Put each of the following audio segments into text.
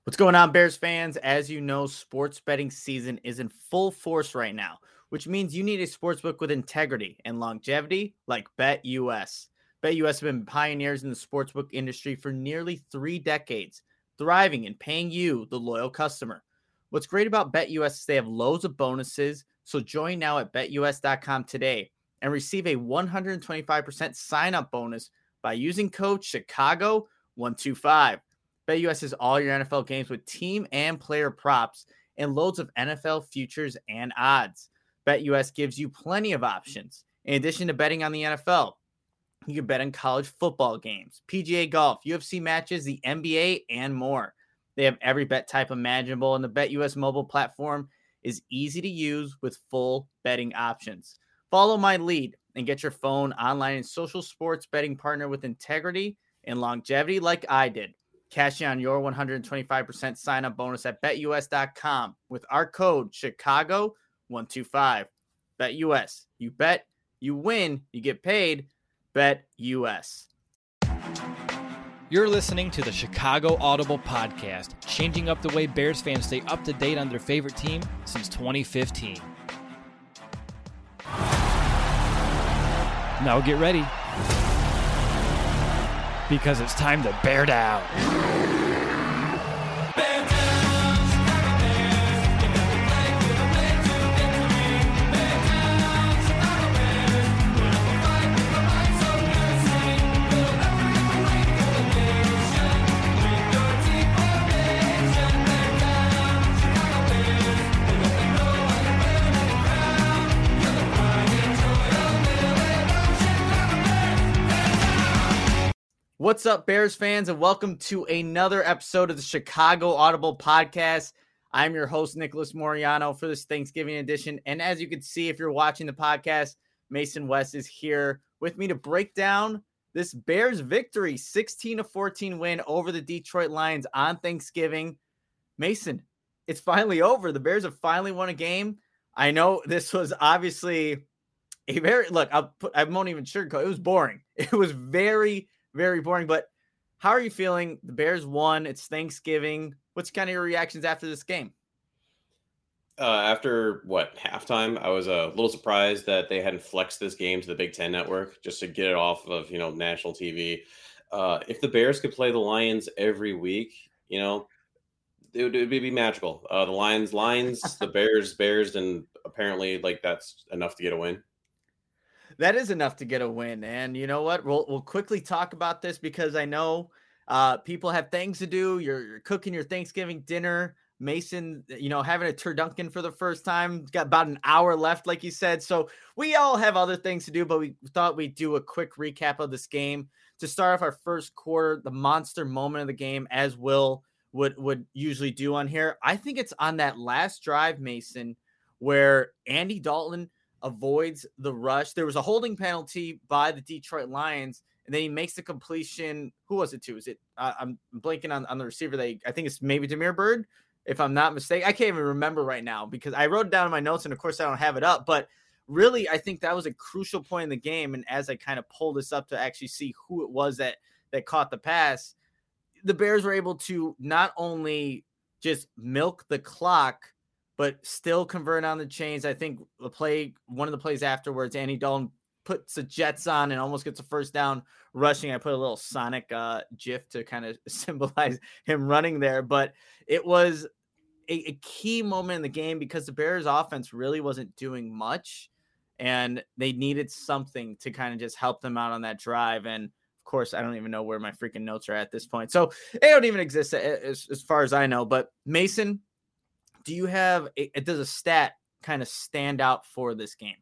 What's going on, Bears fans? As you know, sports betting season is in full force right now, which means you need a sportsbook with integrity and longevity like BetUS. BetUS have been pioneers in the sportsbook industry for nearly 3 decades, thriving and paying you, the loyal customer. What's great about BetUS is they have loads of bonuses, so join now at betus.com today and receive a 125% sign-up bonus by using code Chicago125. BetUS has all your NFL games with team and player props and loads of NFL futures and odds. BetUS gives you plenty of options. In addition to betting on the NFL, you can bet on college football games, PGA golf, UFC matches, the NBA, and more. They have every bet type imaginable, and the BetUS mobile platform is easy to use with full betting options. Follow my lead and get your phone, online, and social sports betting partner with integrity and longevity like I did. Cash in on your 125% sign-up bonus at betus.com with our code Chicago125. BetUS. You bet, you win, you get paid. BetUS. You're listening to the Chicago Audible Podcast, changing up the way Bears fans stay up to date on their favorite team since 2015. Now get ready, because it's time to bear down. What's up, Bears fans, and welcome to another episode of the Chicago Audible Podcast. I'm your host, Nicholas Moriano, for this Thanksgiving edition. And as you can see, if you're watching the podcast, Mason West is here with me to break down this Bears victory, 16-14 win over the Detroit Lions on Thanksgiving. Mason, it's finally over. The Bears have finally won a game. I know this was obviously a I won't even sugarcoat. It was boring. It was very boring, but how are you feeling? The Bears won. It's Thanksgiving. What's kind of your reactions after this game? After halftime, I was a little surprised that they hadn't flexed this game to the Big Ten Network just to get it off of, national TV. If the Bears could play the Lions every week, it would be magical. The Lions, the Bears, and apparently that's enough to get a win. That is enough to get a win. And you know what? We'll quickly talk about this because I know people have things to do. You're cooking your Thanksgiving dinner. Mason, having a turducken for the first time. Got about an hour left, like you said. So we all have other things to do, but we thought we'd do a quick recap of this game to start off our first quarter, the monster moment of the game, as Will would usually do on here. I think it's on that last drive, Mason, where Andy Dalton avoids the rush. There was a holding penalty by the Detroit Lions, and then he makes the completion. Who was it to? Is it? I'm blanking on the receiver. I think it's maybe Damiere Byrd, if I'm not mistaken. I can't even remember right now because I wrote it down in my notes, and of course I don't have it up. But really, I think that was a crucial point in the game. And as I kind of pull this up to actually see who it was that caught the pass, the Bears were able to not only just milk the clock, but still convert on the chains. I think one of the plays afterwards, Andy Dalton puts the Jets on and almost gets a first down rushing. I put a little Sonic GIF to kind of symbolize him running there. But it was a key moment in the game because the Bears offense really wasn't doing much, and they needed something to kind of just help them out on that drive. And of course, I don't even know where my freaking notes are at this point. So they don't even exist as far as I know. But Mason, do you have does a stat kind of stand out for this game?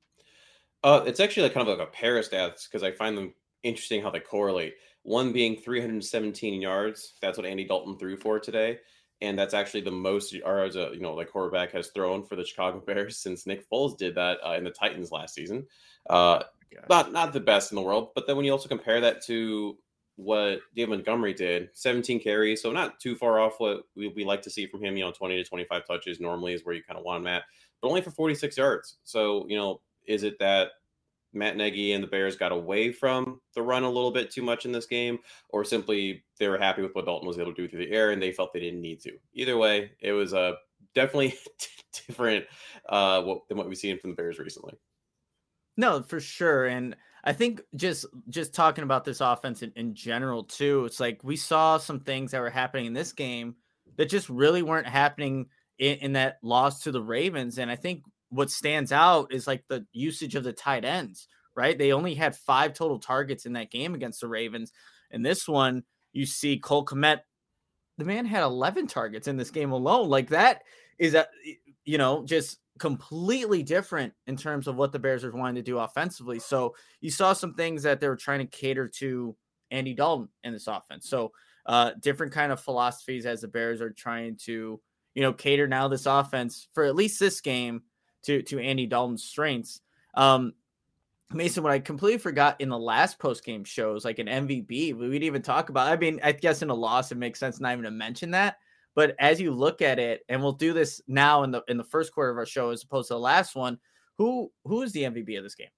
It's actually kind of like a pair of stats because I find them interesting how they correlate. One being 317 yards. That's what Andy Dalton threw for today. And that's actually the most yards quarterback has thrown for the Chicago Bears since Nick Foles did that in the Titans last season. Not the best in the world. But then when you also compare that to what David Montgomery did, 17 carries, so not too far off what we like to see from him. 20 to 25 touches normally is where you kind of want him at, but only for 46 yards. So, is it that Matt Nagy and the Bears got away from the run a little bit too much in this game, or simply they were happy with what Dalton was able to do through the air and they felt they didn't need to. Either way, it was definitely different than what we've seen from the Bears recently. No, for sure. And I think just talking about this offense in general too, it's like we saw some things that were happening in this game that just really weren't happening in that loss to the Ravens. And I think what stands out is like the usage of the tight ends, right? They only had 5 total targets in that game against the Ravens. And this one, you see Cole Kmet, the man had 11 targets in this game alone. Like that is just completely different in terms of what the Bears are wanting to do offensively. So you saw some things that they were trying to cater to Andy Dalton in this offense. So different kind of philosophies as the Bears are trying to, cater now this offense for at least this game to Andy Dalton's strengths. Mason, what I completely forgot in the last post-game shows, like an MVP, we didn't even talk about. I mean, I guess in a loss, it makes sense not even to mention that. But as you look at it, and we'll do this now in the first quarter of our show as opposed to the last one, who is the MVP of this game?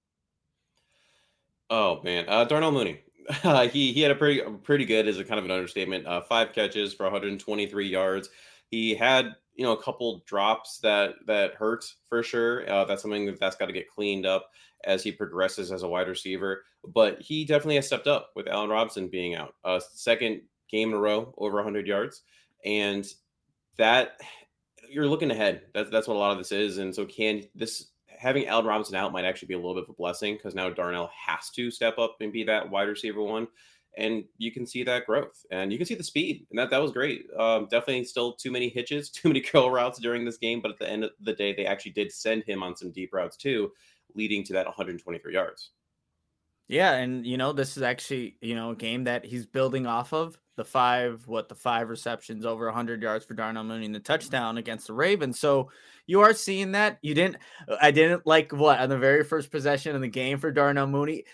Oh man, Darnell Mooney. He had a pretty good, is a kind of an understatement. 5 catches for 123 yards. He had a couple drops that hurt for sure. That's something that's got to get cleaned up as he progresses as a wide receiver. But he definitely has stepped up with Allen Robinson being out. Second game in a row over 100 yards. And that you're looking ahead. That's what a lot of this is. And so having Allen Robinson out might actually be a little bit of a blessing because now Darnell has to step up and be that wide receiver one. And you can see that growth and you can see the speed. And that was great. Definitely still too many hitches, too many curl routes during this game. But at the end of the day, they actually did send him on some deep routes too, leading to that 123 yards. Yeah, and this is actually a game that he's building off of the 5 receptions over 100 yards for Darnell Mooney in the touchdown against the Ravens. So you are seeing that. I didn't like on the very first possession of the game for Darnell Mooney.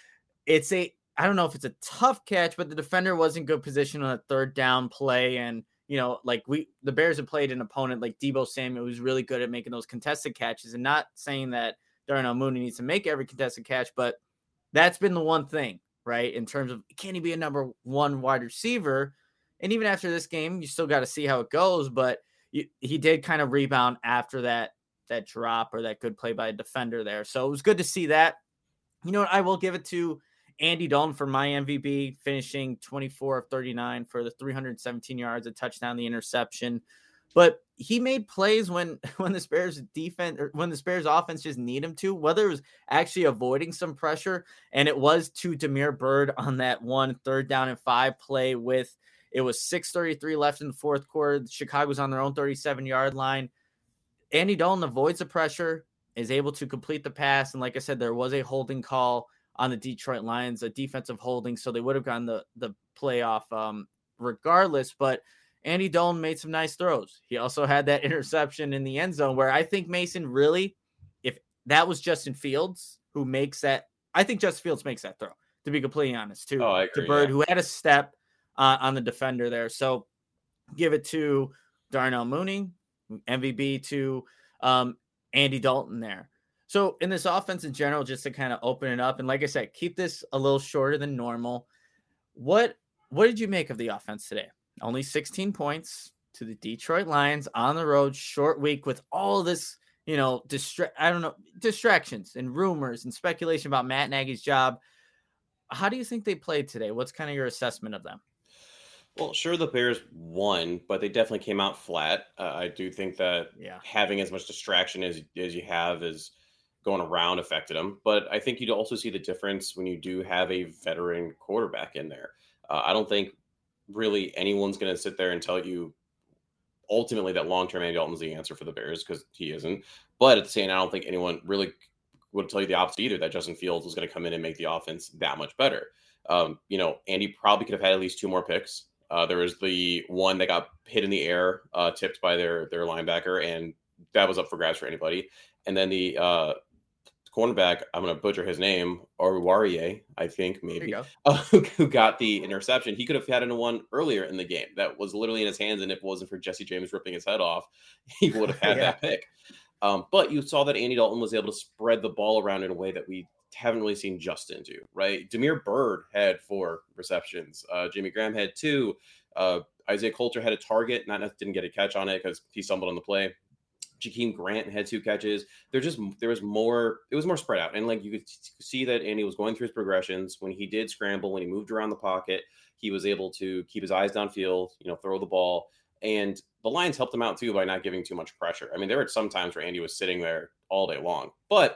I don't know if it's a tough catch, but the defender was in good position on a third down play, and the Bears have played an opponent like Deebo Samuel who's really good at making those contested catches, and not saying that Darnell Mooney needs to make every contested catch, but that's been the one thing, right? In terms of, can he be a number 1 wide receiver? And even after this game, you still got to see how it goes. But he did kind of rebound after that drop or that good play by a defender there. So it was good to see that. You know what? I will give it to Andy Dalton for my MVP, finishing 24 of 39 for the 317 yards, a touchdown, the interception. But he made plays when the Bears defense or when the Bears offense just need him to, whether it was actually avoiding some pressure. And it was to Damiere Byrd on that 1 3rd down and 5 play with, it was 6:33 left in the fourth quarter. Chicago's on their own 37-yard line. Andy Dalton avoids the pressure, is able to complete the pass. And like I said, there was a holding call on the Detroit Lions, a defensive holding. So they would have gotten the playoff regardless, but Andy Dalton made some nice throws. He also had that interception in the end zone where I think, Mason, really, if that was Justin Fields who makes that, I think Justin Fields makes that throw, to be completely honest, too. I agree, to Byrd, who had a step on the defender there. So give it to Darnell Mooney, MVP to Andy Dalton there. So in this offense in general, just to kind of open it up, and like I said, keep this a little shorter than normal. What did you make of the offense today? Only 16 points to the Detroit Lions on the road, short week with all this, distractions and rumors and speculation about Matt Nagy's job. How do you think they played today? What's kind of your assessment of them? Well, sure, the Bears won, but they definitely came out flat. I do think that having as much distraction as you have is going around affected them. But I think you'd also see the difference when you do have a veteran quarterback in there. I don't think really anyone's going to sit there and tell you ultimately that long-term Andy Dalton's the answer for the Bears, because he isn't. But at the same time, I don't think anyone really would tell you the opposite either, that Justin Fields was going to come in and make the offense that much better. Andy probably could have had at least 2 more picks. There was the one that got hit in the air, tipped by their linebacker, and that was up for grabs for anybody. And then the cornerback, I'm going to butcher his name, Oruwariye, I think, maybe, who got the interception. He could have had one earlier in the game that was literally in his hands, and if it wasn't for Jesse James ripping his head off, he would have had that pick. But you saw that Andy Dalton was able to spread the ball around in a way that we haven't really seen Justin do, right? Damiere Byrd had 4 receptions. Jimmy Graham had 2. Isaiah Coulter had a target, didn't get a catch on it because he stumbled on the play. Jakeem Grant had 2 catches. There was more. It was more spread out, and like you could see that Andy was going through his progressions. When he did scramble, when he moved around the pocket, he was able to keep his eyes downfield, throw the ball, and the Lions helped him out too by not giving too much pressure. I mean, there were some times where Andy was sitting there all day long, but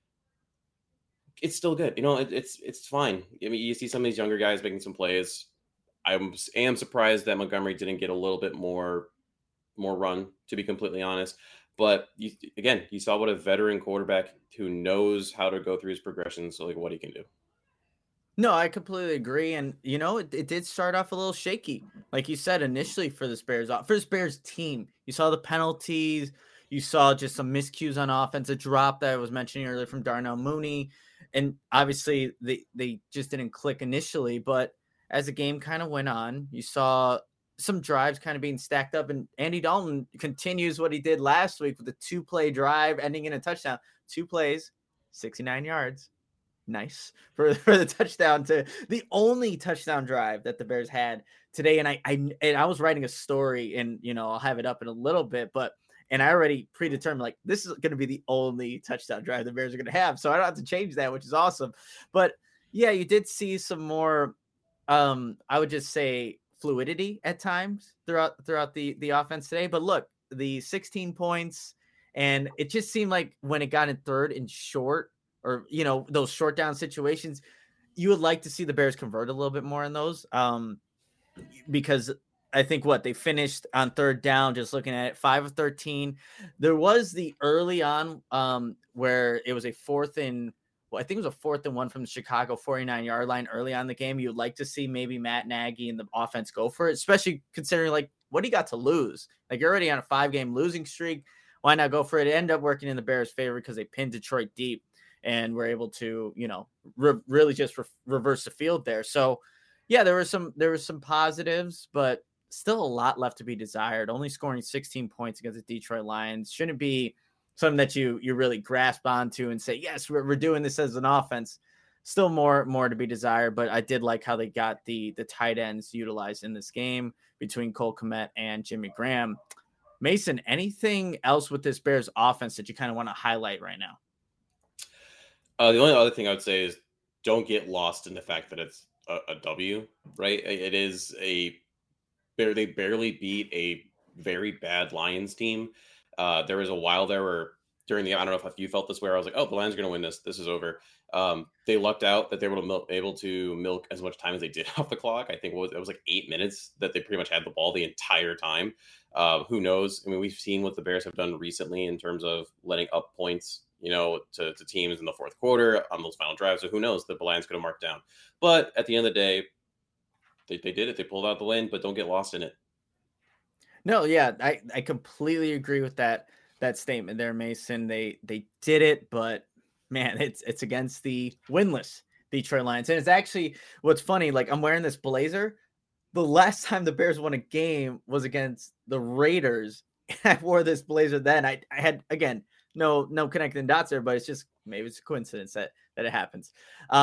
it's still good. It's fine. I mean, you see some of these younger guys making some plays. I am surprised that Montgomery didn't get a little bit more run, to be completely honest. But you saw what a veteran quarterback who knows how to go through his progressions, so like what he can do. No, I completely agree. And, it did start off a little shaky. Like you said, initially for this Bears team, you saw the penalties. You saw just some miscues on offense, a drop that I was mentioning earlier from Darnell Mooney. And obviously they just didn't click initially. But as the game kind of went on, you saw some drives kind of being stacked up, and Andy Dalton continues what he did last week with a 2-play drive ending in a touchdown. 2 plays, 69 yards. Nice for the touchdown, to the only touchdown drive that the Bears had today. And I was writing a story, and I'll have it up in a little bit, and I already predetermined, like, this is going to be the only touchdown drive the Bears are going to have. So I don't have to change that, which is awesome. But yeah, you did see some more, I would just say, fluidity at times throughout the offense today. But look, the 16 points, and it just seemed like when it got in third and short, or those short down situations, you would like to see the Bears convert a little bit more in those, because I think they finished on third down, just looking at it, 5 of 13. There was the early on where it was a 4th and I think it was a 4th and 1 from the Chicago 49-yard line early on in the game. You would like to see maybe Matt Nagy and the offense go for it, especially considering like what he got to lose. Like, you're already on a 5-game losing streak. Why not go for it? It ended up working in the Bears' favor because they pinned Detroit deep and were able to, really just reverse the field there. So yeah, there was some positives, but still a lot left to be desired. Only scoring 16 points against the Detroit Lions shouldn't be something that you really grasp onto and say, yes, we're doing this as an offense. Still more to be desired, but I did like how they got the tight ends utilized in this game between Cole Kmet and Jimmy Graham. Mason, anything else with this Bears offense that you kind of want to highlight right now? The only other thing I would say is don't get lost in the fact that it's a W, right? It is they barely beat a very bad Lions team. There was a while there where I don't know if you felt this way, where I was like, oh, the Lions are going to win this. This is over. They lucked out that they were able to milk as much time as they did off the clock. I think it was like 8 minutes that they pretty much had the ball the entire time. Who knows? I mean, we've seen what the Bears have done recently in terms of letting up points, to teams in the fourth quarter on those final drives. So who knows? The Lions could have marked down. But at the end of the day, they did it. They pulled out the win, but don't get lost in it. No, yeah, I completely agree with that statement there, Mason. They did it, but man, it's against the winless Detroit Lions. And it's actually, what's funny, like, I'm wearing this blazer. The last time the Bears won a game was against the Raiders. I wore this blazer then. I had, again, no connecting dots there, but it's just, maybe it's a coincidence that it happens.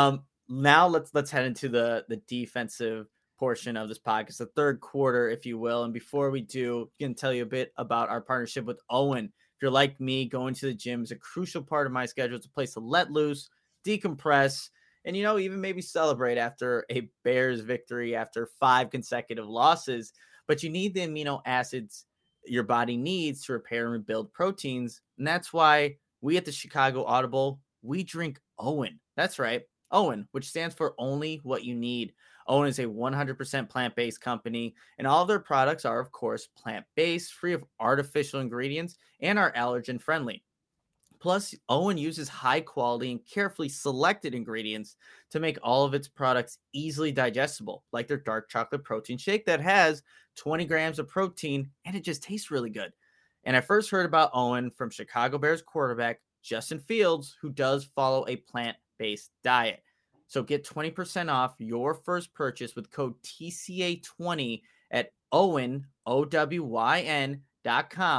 Now let's head into the defensive portion of this podcast, the third quarter, if you will. And before we do, I can tell you a bit about our partnership with Owen. If you're like me, going to the gym is a crucial part of my schedule. It's a place to let loose, decompress, and, even maybe celebrate after a Bears victory after 5 consecutive losses. But you need the amino acids your body needs to repair and rebuild proteins. And that's why we at the Chicago Audible, we drink Owen. That's right, Owen, which stands for only what you need. Owen is a 100% plant-based company, and all of their products are, of course, plant-based, free of artificial ingredients, and are allergen-friendly. Plus, Owen uses high-quality and carefully selected ingredients to make all of its products easily digestible, like their dark chocolate protein shake that has 20 grams of protein, and it just tastes really good. And I first heard about Owen from Chicago Bears quarterback Justin Fields, who does follow a plant-based diet. So get 20% off your first purchase with code TCA20 at Owen, OWYN.com.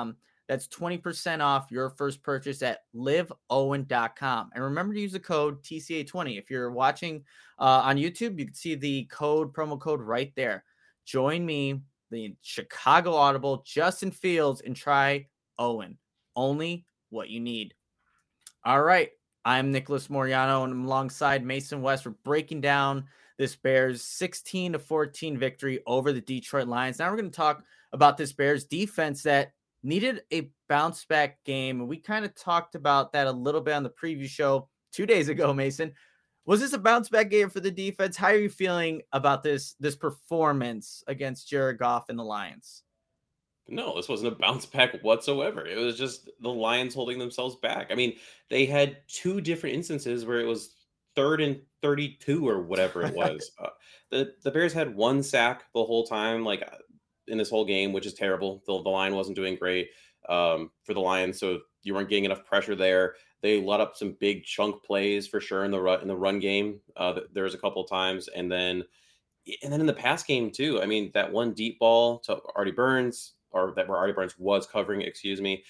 That's 20% off your first purchase at liveowen.com. And remember to use the code TCA20. If you're watching on YouTube, you can see the promo code right there. Join me, the Chicago Audible, Justin Fields, and try Owen. Only what you need. All right. I'm Nicholas Moriano, and I'm alongside Mason West. We're breaking down this Bears 16-14 victory over the Detroit Lions. Now we're going to talk about this Bears defense that needed a bounce back game. And we kind of talked about that a little bit on the preview show 2 days ago, Mason. Was this a bounce back game for the defense? How are you feeling about this performance against Jared Goff and the Lions? No, this wasn't a bounce back whatsoever. It was just the Lions holding themselves back. I mean, they had two different instances where it was 3rd and 32 or whatever it was. The Bears had one sack the whole time, like in this whole game, which is terrible. The line wasn't doing great for the Lions, so you weren't getting enough pressure there. They let up some big chunk plays for sure in the run game. There was a couple of times, and then in the pass game too. I mean, that one deep ball to Artie Burns, or that where Artie Burns was covering, excuse me.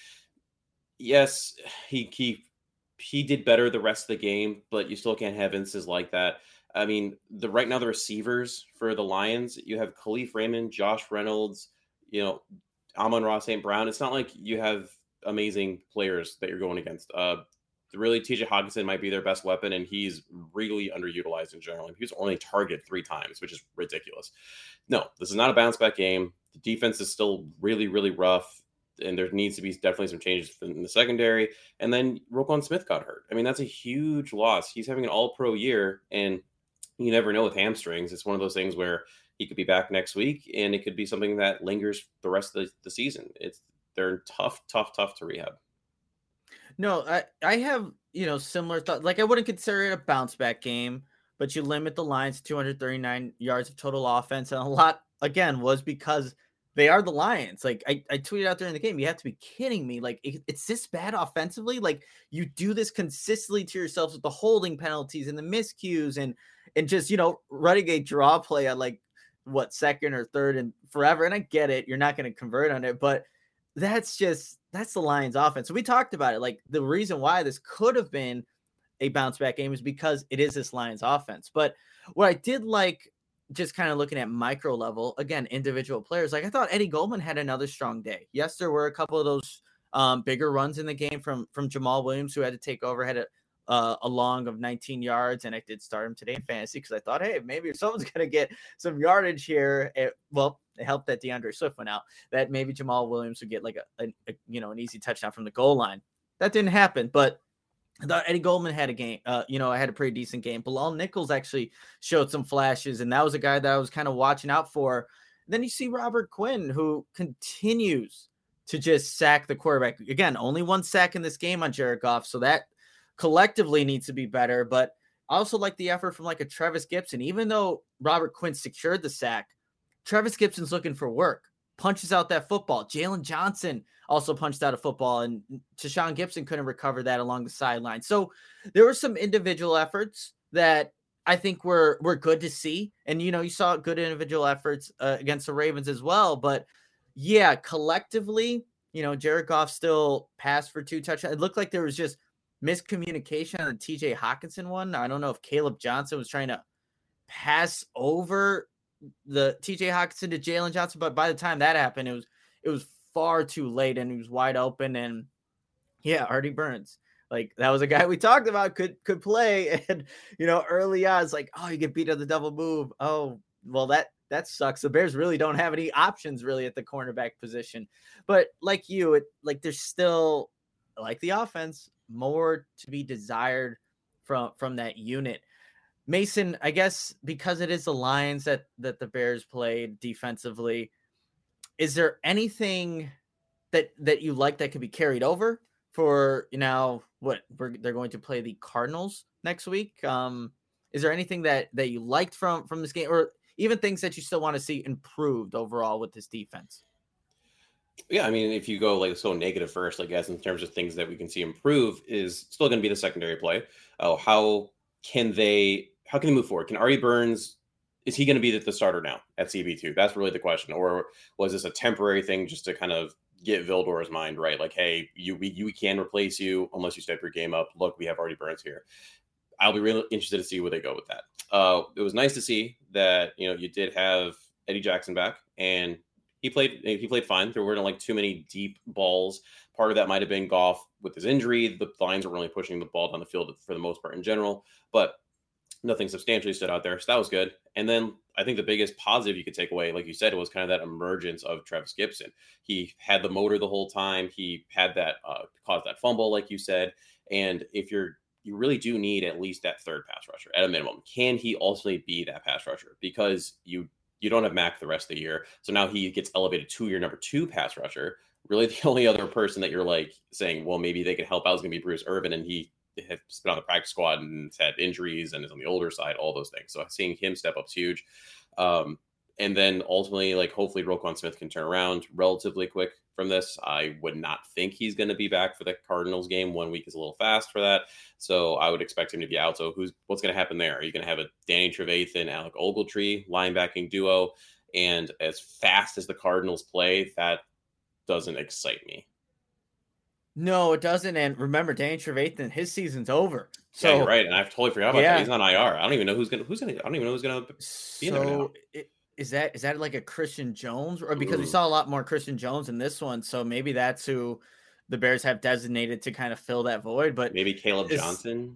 Yes, he did better the rest of the game, but you still can't have instances like that. I mean, right now the receivers for the Lions, you have Khalif Raymond, Josh Reynolds, Amon-Ra St. Brown. It's not like you have amazing players that you're going against. Really, TJ Hockenson might be their best weapon, and he's really underutilized in general. He was only targeted 3 times, which is ridiculous. No, this is not a bounce back game. The defense is still really, really rough, and there needs to be definitely some changes in the secondary. And then Roquan Smith got hurt. I mean, that's a huge loss. He's having an all-pro year, and you never know with hamstrings. It's one of those things where he could be back next week, and it could be something that lingers the rest of the season. They're tough to rehab. No, I have, similar thoughts. Like, I wouldn't consider it a bounce back game, but you limit the Lions to 239 yards of total offense. And a lot, again, was because they are the Lions. Like, I tweeted out during the game, you have to be kidding me. Like, it's this bad offensively. Like, you do this consistently to yourselves with the holding penalties and the miscues and just, running a draw play on like second or third and forever. And I get it. You're not going to convert on it, but that's the Lions offense. So we talked about it. Like, the reason why this could have been a bounce back game is because it is this Lions offense. But what I did like, just kind of looking at micro level, again, individual players, like I thought Eddie Goldman had another strong day. Yes, there were a couple of those bigger runs in the game from Jamal Williams, who had to take over, had a long of 19 yards. And I did start him today in fantasy because I thought, hey, maybe if someone's going to get some yardage here, it helped that DeAndre Swift went out, that maybe Jamal Williams would get like an easy touchdown from the goal line. That didn't happen, but I thought Eddie Goldman had a game. I had a pretty decent game. Bilal Nichols actually showed some flashes, and that was a guy that I was kind of watching out for. Then you see Robert Quinn, who continues to just sack the quarterback. Again, only 1 sack in this game on Jared Goff, so that collectively needs to be better. But I also like the effort from like a Travis Gibson. Even though Robert Quinn secured the sack, Travis Gibson's looking for work, punches out that football. Jalen Johnson also punched out a football, and Tashawn Gibson couldn't recover that along the sideline. So there were some individual efforts that I think were good to see. And, you saw good individual efforts against the Ravens as well. But yeah, collectively, Jared Goff still passed for 2 touchdowns. It looked like there was just miscommunication on the TJ Hockenson one. I don't know if Caleb Johnson was trying to pass over the TJ Hockenson to Jalen Johnson, but by the time that happened, it was far too late, and he was wide open. And yeah, Artie Burns, like, that was a guy we talked about could play. And early on, it's like, oh, you get beat on the double move. Oh, well, that sucks. The Bears really don't have any options really at the cornerback position. But like there's still, like the offense, more to be desired from that unit. Mason, I guess because it is the Lions that the Bears played defensively, is there anything that you like that could be carried over for, they're going to play the Cardinals next week? Is there anything that you liked from this game, or even things that you still want to see improved overall with this defense? Yeah, I mean, if you go so negative first, I guess, in terms of things that we can see improve, is still going to be the secondary play. How can they move forward? Can Artie Burns, is he going to be the starter now at CB2? That's really the question. Or was this a temporary thing just to kind of get Vildor's mind right. Like, hey, we can replace you unless you step your game up. Look, we have already Burns here. I'll be really interested to see where they go with that. It was nice to see that, you did have Eddie Jackson back, and he played fine. There weren't like too many deep balls. Part of that might have been Goff with his injury. The Lions were really pushing the ball down the field for the most part in general, but nothing substantially stood out there. So that was good. And then I think the biggest positive you could take away, like you said, was kind of that emergence of Travis Gibson. He had the motor the whole time. He had that caused that fumble, like you said. And if you really do need at least that third pass rusher at a minimum. Can he ultimately be that pass rusher? Because you don't have Mac the rest of the year. So now he gets elevated to your number 2 pass rusher. Really the only other person that you're like saying, well, maybe they could help out is going to be Bruce Irvin. And he has been on the practice squad and has had injuries and is on the older side, all those things. So seeing him step up is huge. And then ultimately, like, hopefully Roquan Smith can turn around relatively quick from this. I would not think he's going to be back for the Cardinals game. 1 week is a little fast for that. So I would expect him to be out. So what's going to happen there? Are you going to have a Danny Trevathan, Alec Ogletree linebacking duo? And as fast as the Cardinals play, that doesn't excite me. No, it doesn't. And remember, Danny Trevathan, his season's over. So yeah, you're right. And I've totally forgot about that. He's on IR. I don't even know who's gonna be in there now. Is that like a Christian Jones? Or because we saw a lot more Christian Jones in this one, so maybe that's who the Bears have designated to kind of fill that void. But maybe Caleb Johnson.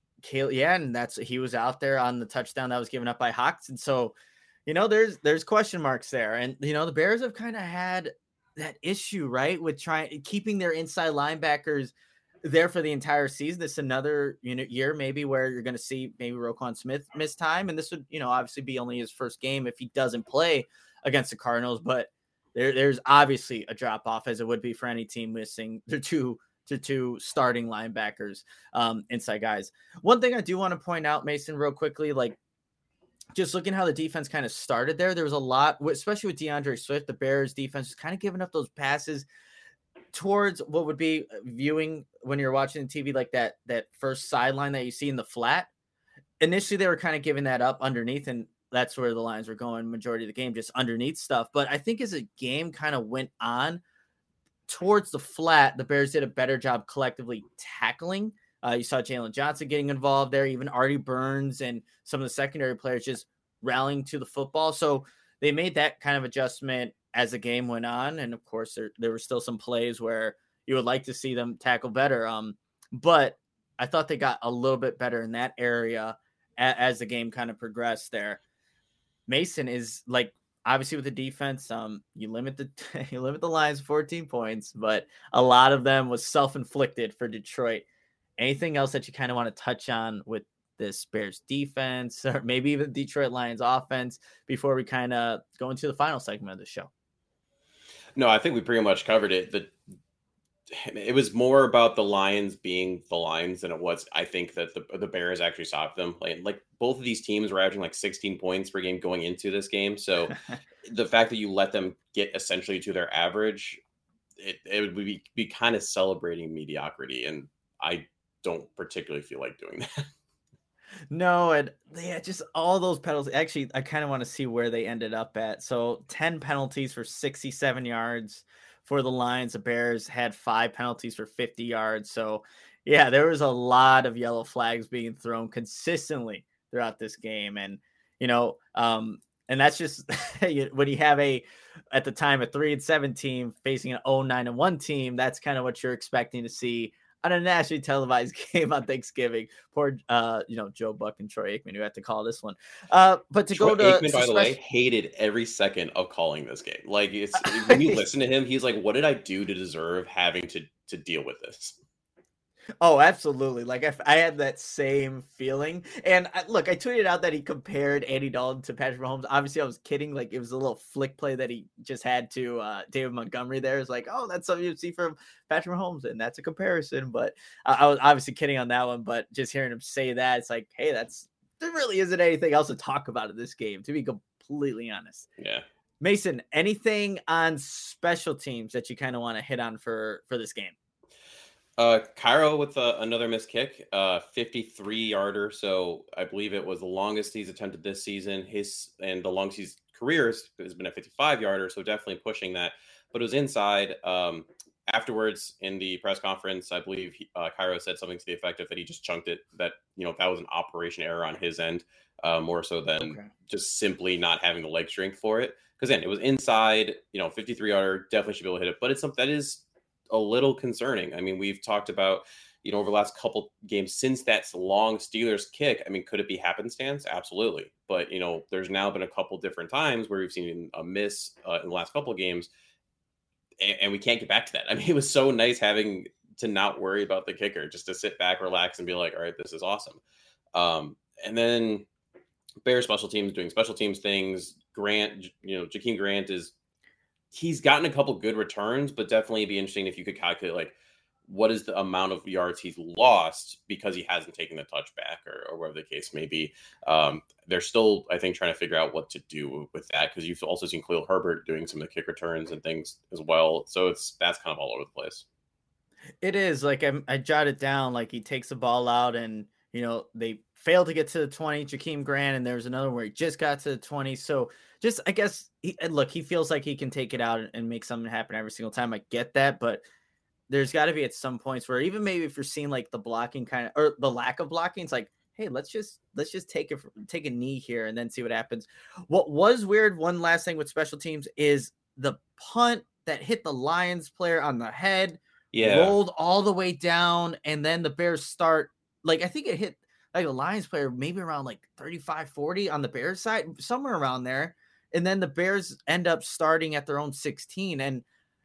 And he was out there on the touchdown that was given up by Hawks. And so, there's question marks there. And the Bears have kind of had that issue, right, with keeping their inside linebackers there for the entire season. This is another year maybe where you're going to see maybe Roquan Smith miss time, and this would obviously be only his first game if he doesn't play against the Cardinals. But there's obviously a drop off, as it would be for any team missing their two starting linebackers, inside guys. One thing I do want to point out, Mason, real quickly, like just looking how the defense kind of started there was a lot, especially with DeAndre Swift. The Bears defense is kind of giving up those passes towards what would be viewing when you're watching the TV, like that first sideline that you see in the flat. Initially, they were kind of giving that up underneath, and that's where the Lions were going majority of the game, just underneath stuff. But I think as the game kind of went on towards the flat, the Bears did a better job collectively tackling. You saw Jalen Johnson getting involved there, even Artie Burns and some of the secondary players just rallying to the football. So they made that kind of adjustment as the game went on. And of course, there were still some plays where you would like to see them tackle better. But I thought they got a little bit better in that area as the game kind of progressed there. Mason is like, obviously with the defense, you limit the Lions 14 points, but a lot of them was self-inflicted for Detroit. Anything else that you kind of want to touch on with this Bears defense, or maybe even Detroit Lions offense, before we kind of go into the final segment of the show? No, I think we pretty much covered it. It was more about the Lions being the Lions than it was, I think, that the Bears actually stopped them. Like both of these teams were averaging like 16 points per game going into this game. So the fact that you let them get essentially to their average, it would be kind of celebrating mediocrity. And I don't particularly feel like doing that. No, and just all those penalties. Actually, I kind of want to see where they ended up at. So 10 penalties for 67 yards for the Lions. The Bears had 5 penalties for 50 yards. So yeah, there was a lot of yellow flags being thrown consistently throughout this game. And, and that's just when you have at the time, a 3-7 team facing an 0-9-1 team, that's kind of what you're expecting to see on a nationally televised game on Thanksgiving. Poor, Joe Buck and Troy Aikman, who had to call this one. But Troy Aikman, by the way, hated every second of calling this game. Like, when you listen to him, he's like, "What did I do to deserve having to deal with this?" Oh, absolutely. Like I had that same feeling. And I tweeted out that he compared Andy Dalton to Patrick Mahomes. Obviously, I was kidding. Like, it was a little flick play that he just had to David Montgomery there. It's like, oh, that's something you'd see from Patrick Mahomes, and that's a comparison. But I was obviously kidding on that one. But just hearing him say that, it's like, hey, there really isn't anything else to talk about in this game, to be completely honest. Yeah. Mason, anything on special teams that you kind of want to hit on for this game? Cairo with another missed kick, 53-yarder. So I believe it was the longest he's attempted this season. The longest his career has been a 55-yarder. So definitely pushing that. but it was inside. Afterwards in the press conference, I believe Cairo said something to the effect of that he just chunked it, that, that was an operation error on his end, more so than just simply not having the leg strength for it. Because then it was inside, 53-yarder, definitely should be able to hit it. But it's something that is a little concerning. I mean, we've talked about, over the last couple games since that long Steelers kick. I mean, could it be happenstance? Absolutely. But, there's now been a couple different times where we've seen a miss in the last couple of games, and we can't get back to that. I mean, it was so nice having to not worry about the kicker, just to sit back, relax, and be like, all right, this is awesome. And then Bears special teams doing special teams things. Grant, Jakeem Grant he's gotten a couple good returns, but definitely it'd be interesting if you could calculate, like, what is the amount of yards he's lost because he hasn't taken the touchback or whatever the case may be. They're still, I think, trying to figure out what to do with that, because you've also seen Khalil Herbert doing some of the kick returns and things as well. So that's kind of all over the place. It is. Like, I jotted down, like, he takes the ball out and, they fail to get to the 20, Jakeem Grant, and there's another where he just got to the 20. So just, I guess, he feels like he can take it out and make something happen every single time. I get that, but there's got to be at some points where, even maybe if you're seeing like the blocking kind of, or the lack of blocking, it's like, hey, let's just take a knee here and then see what happens. What was weird, one last thing with special teams, is the punt that hit the Lions player on the head, rolled all the way down, and then the Bears start, like, I think it hit like the Lions player maybe around like 35-40 on the Bears side, somewhere around there. And then the Bears end up starting at their own 16. And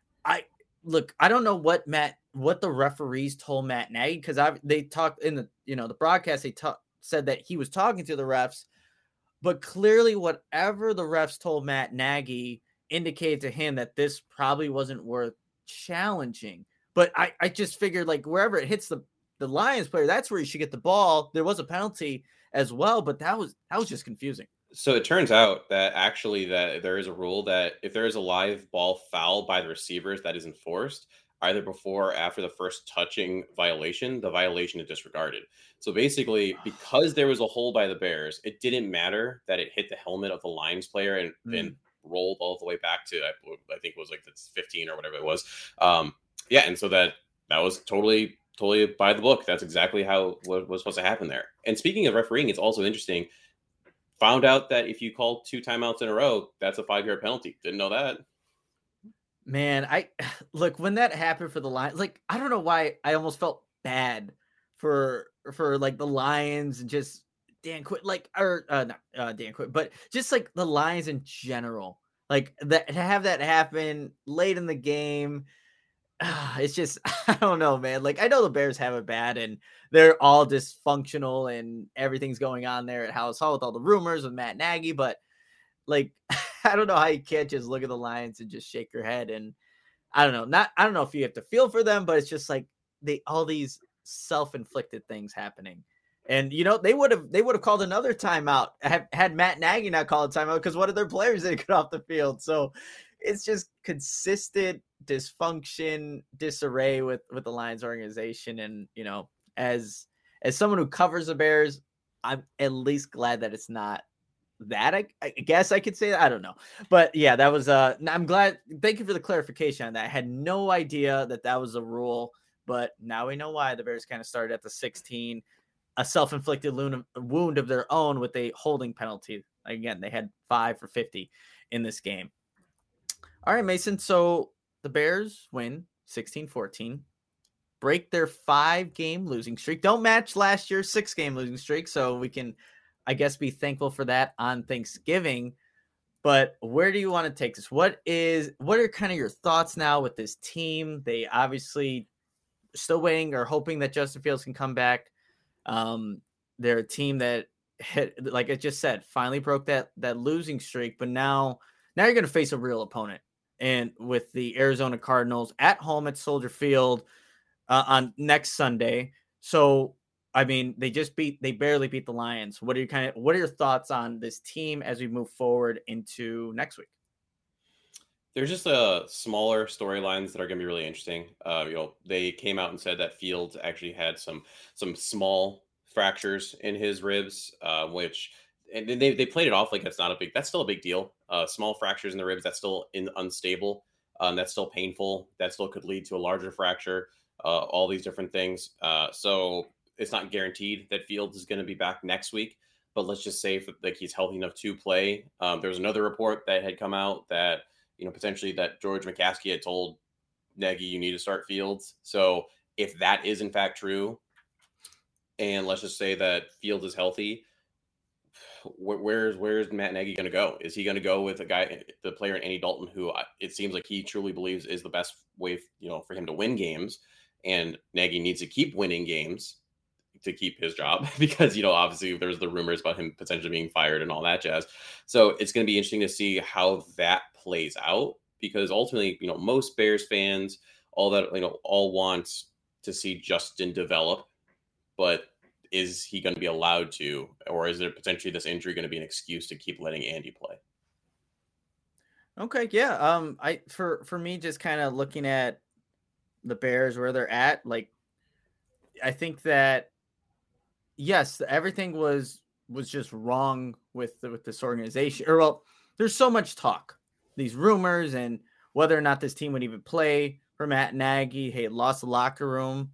I don't know what the referees told Matt Nagy, because they talked in the the broadcast. They said that he was talking to the refs, but clearly whatever the refs told Matt Nagy indicated to him that this probably wasn't worth challenging. But I just figured, like, wherever it hits the Lions player, that's where you should get the ball. There was a penalty as well, but that was just confusing. So it turns out that actually that there is a rule that if there is a live ball foul by the receivers that is enforced either before or after the first touching violation, the violation is disregarded. So basically, because there was a hold by the Bears, it didn't matter that it hit the helmet of the Lions player and rolled all the way back to, I think it was like the 15 or whatever it was. And so that was totally by the book. That's exactly how what was supposed to happen there. And speaking of refereeing, it's also interesting. Found out that if you call 2 timeouts in a row, that's a 5-yard penalty. Didn't know that. Man, look, when that happened for the Lions, like, I don't know why I almost felt bad for like the Lions and just Dan Quinn, like, or not Dan Quinn, but just like the Lions in general, like that, to have that happen late in the game. It's just, I don't know, man. Like, I know the Bears have it bad and they're all dysfunctional and everything's going on there at House Hall with all the rumors with Matt Nagy, but like, I don't know how you can't just look at the Lions and just shake your head. And I don't know if you have to feel for them, but it's just like all these self-inflicted things happening. And they would have called another timeout had Matt Nagy not called a timeout, because one of their players didn't get off the field. So it's just consistent dysfunction, disarray with the Lions organization. And as someone who covers the Bears, I'm at least glad that it's not that. I guess I could say that. I don't know, but yeah, that was I'm glad. Thank you for the clarification on that. I had no idea that was a rule, but now we know why the Bears kind of started at the 16, a self-inflicted wound of their own with a holding penalty. Again, they had 5 for 50 in this game. All right, Mason. So the Bears win 16-14, break their 5-game losing streak. Don't match last year's 6-game losing streak. So we can, I guess, be thankful for that on Thanksgiving. But where do you want to take this? What are kind of your thoughts now with this team? They obviously still waiting or hoping that Justin Fields can come back. They're a team that hit, like I just said, finally broke that losing streak, but now you're going to face a real opponent. And with the Arizona Cardinals at home at Soldier Field on next Sunday. So, I mean, they barely beat the Lions. What are your thoughts on this team as we move forward into next week? There's just smaller storylines that are going to be really interesting. They came out and said that Fields actually had some small fractures in his ribs, and they played it off like that's still a big deal. Small fractures in the ribs, that's still unstable. That's still painful. That still could lead to a larger fracture. All these different things. So it's not guaranteed that Fields is going to be back next week. But let's just say like he's healthy enough to play. There's another report that had come out that potentially that George McCaskey had told Nagy, you need to start Fields. So if that is in fact true, and let's just say that Fields is healthy, where's Matt Nagy going to go? Is he going to go with the player Andy Dalton, who it seems like he truly believes is the best way, for him to win games, and Nagy needs to keep winning games to keep his job because, obviously there's the rumors about him potentially being fired and all that jazz. So it's going to be interesting to see how that plays out, because ultimately, most Bears fans, all want to see Justin develop, but is he going to be allowed to, or is there potentially this injury going to be an excuse to keep letting Andy play? Okay. Yeah. For me, just kind of looking at the Bears, where they're at, like, I think that, yes, everything was just wrong with this organization. Or, well, there's so much talk, these rumors, and whether or not this team would even play for Matt Nagy. Hey, lost the locker room.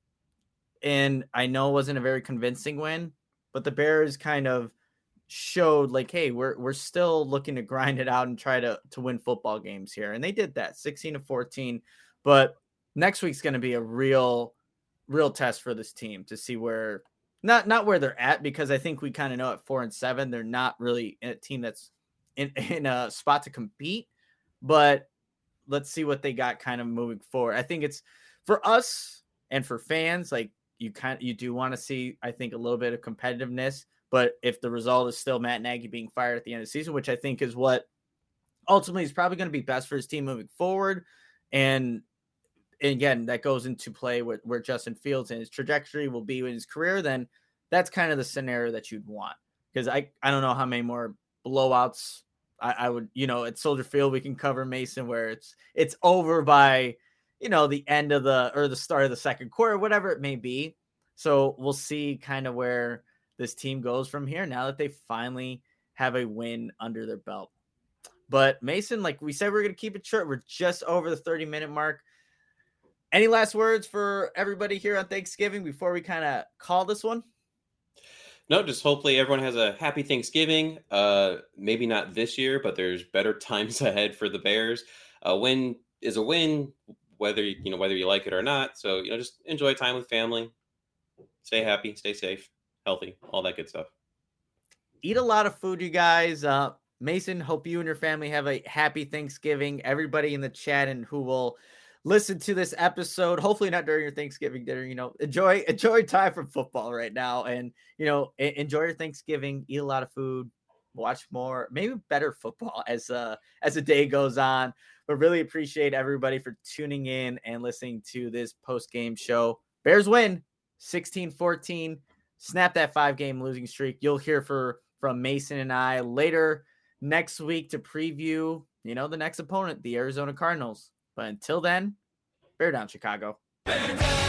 And I know it wasn't a very convincing win, but the Bears kind of showed like, hey, we're still looking to grind it out and try to win football games here. And they did that 16-14. But next week's going to be a real test for this team to see where, not where they're at, because I think we kind of know at 4-7, they're not really a team that's in a spot to compete. But let's see what they got kind of moving forward. I think it's for us and for fans, like, you do want to see, I think, a little bit of competitiveness, but if the result is still Matt Nagy being fired at the end of the season, which I think is what ultimately is probably going to be best for his team moving forward. And again, that goes into play where Justin Fields and his trajectory will be in his career, then that's kind of the scenario that you'd want. Because I don't know how many more blowouts I would, at Soldier Field, we can cover, Mason, where it's over by, the end of the start of the second quarter, whatever it may be. So we'll see kind of where this team goes from here now that they finally have a win under their belt. But Mason, like we said, we're going to keep it short. We're just over the 30-minute mark. Any last words for everybody here on Thanksgiving before we kind of call this one? No, just hopefully everyone has a happy Thanksgiving. Maybe not this year, but there's better times ahead for the Bears. A win is a win, whether you like it or not. So, just enjoy time with family. Stay happy, stay safe, healthy, all that good stuff. Eat a lot of food, you guys. Mason, hope you and your family have a happy Thanksgiving. Everybody in the chat and who will listen to this episode, hopefully not during your Thanksgiving dinner, enjoy time from football right now, and enjoy your Thanksgiving. Eat a lot of food, watch more, maybe better football as the day goes on. But really appreciate everybody for tuning in and listening to this post-game show. Bears win 16-14, snap that 5-game losing streak. You'll hear from Mason and I later next week to preview the next opponent, the Arizona Cardinals. But until then, bear down, Chicago. Bear down!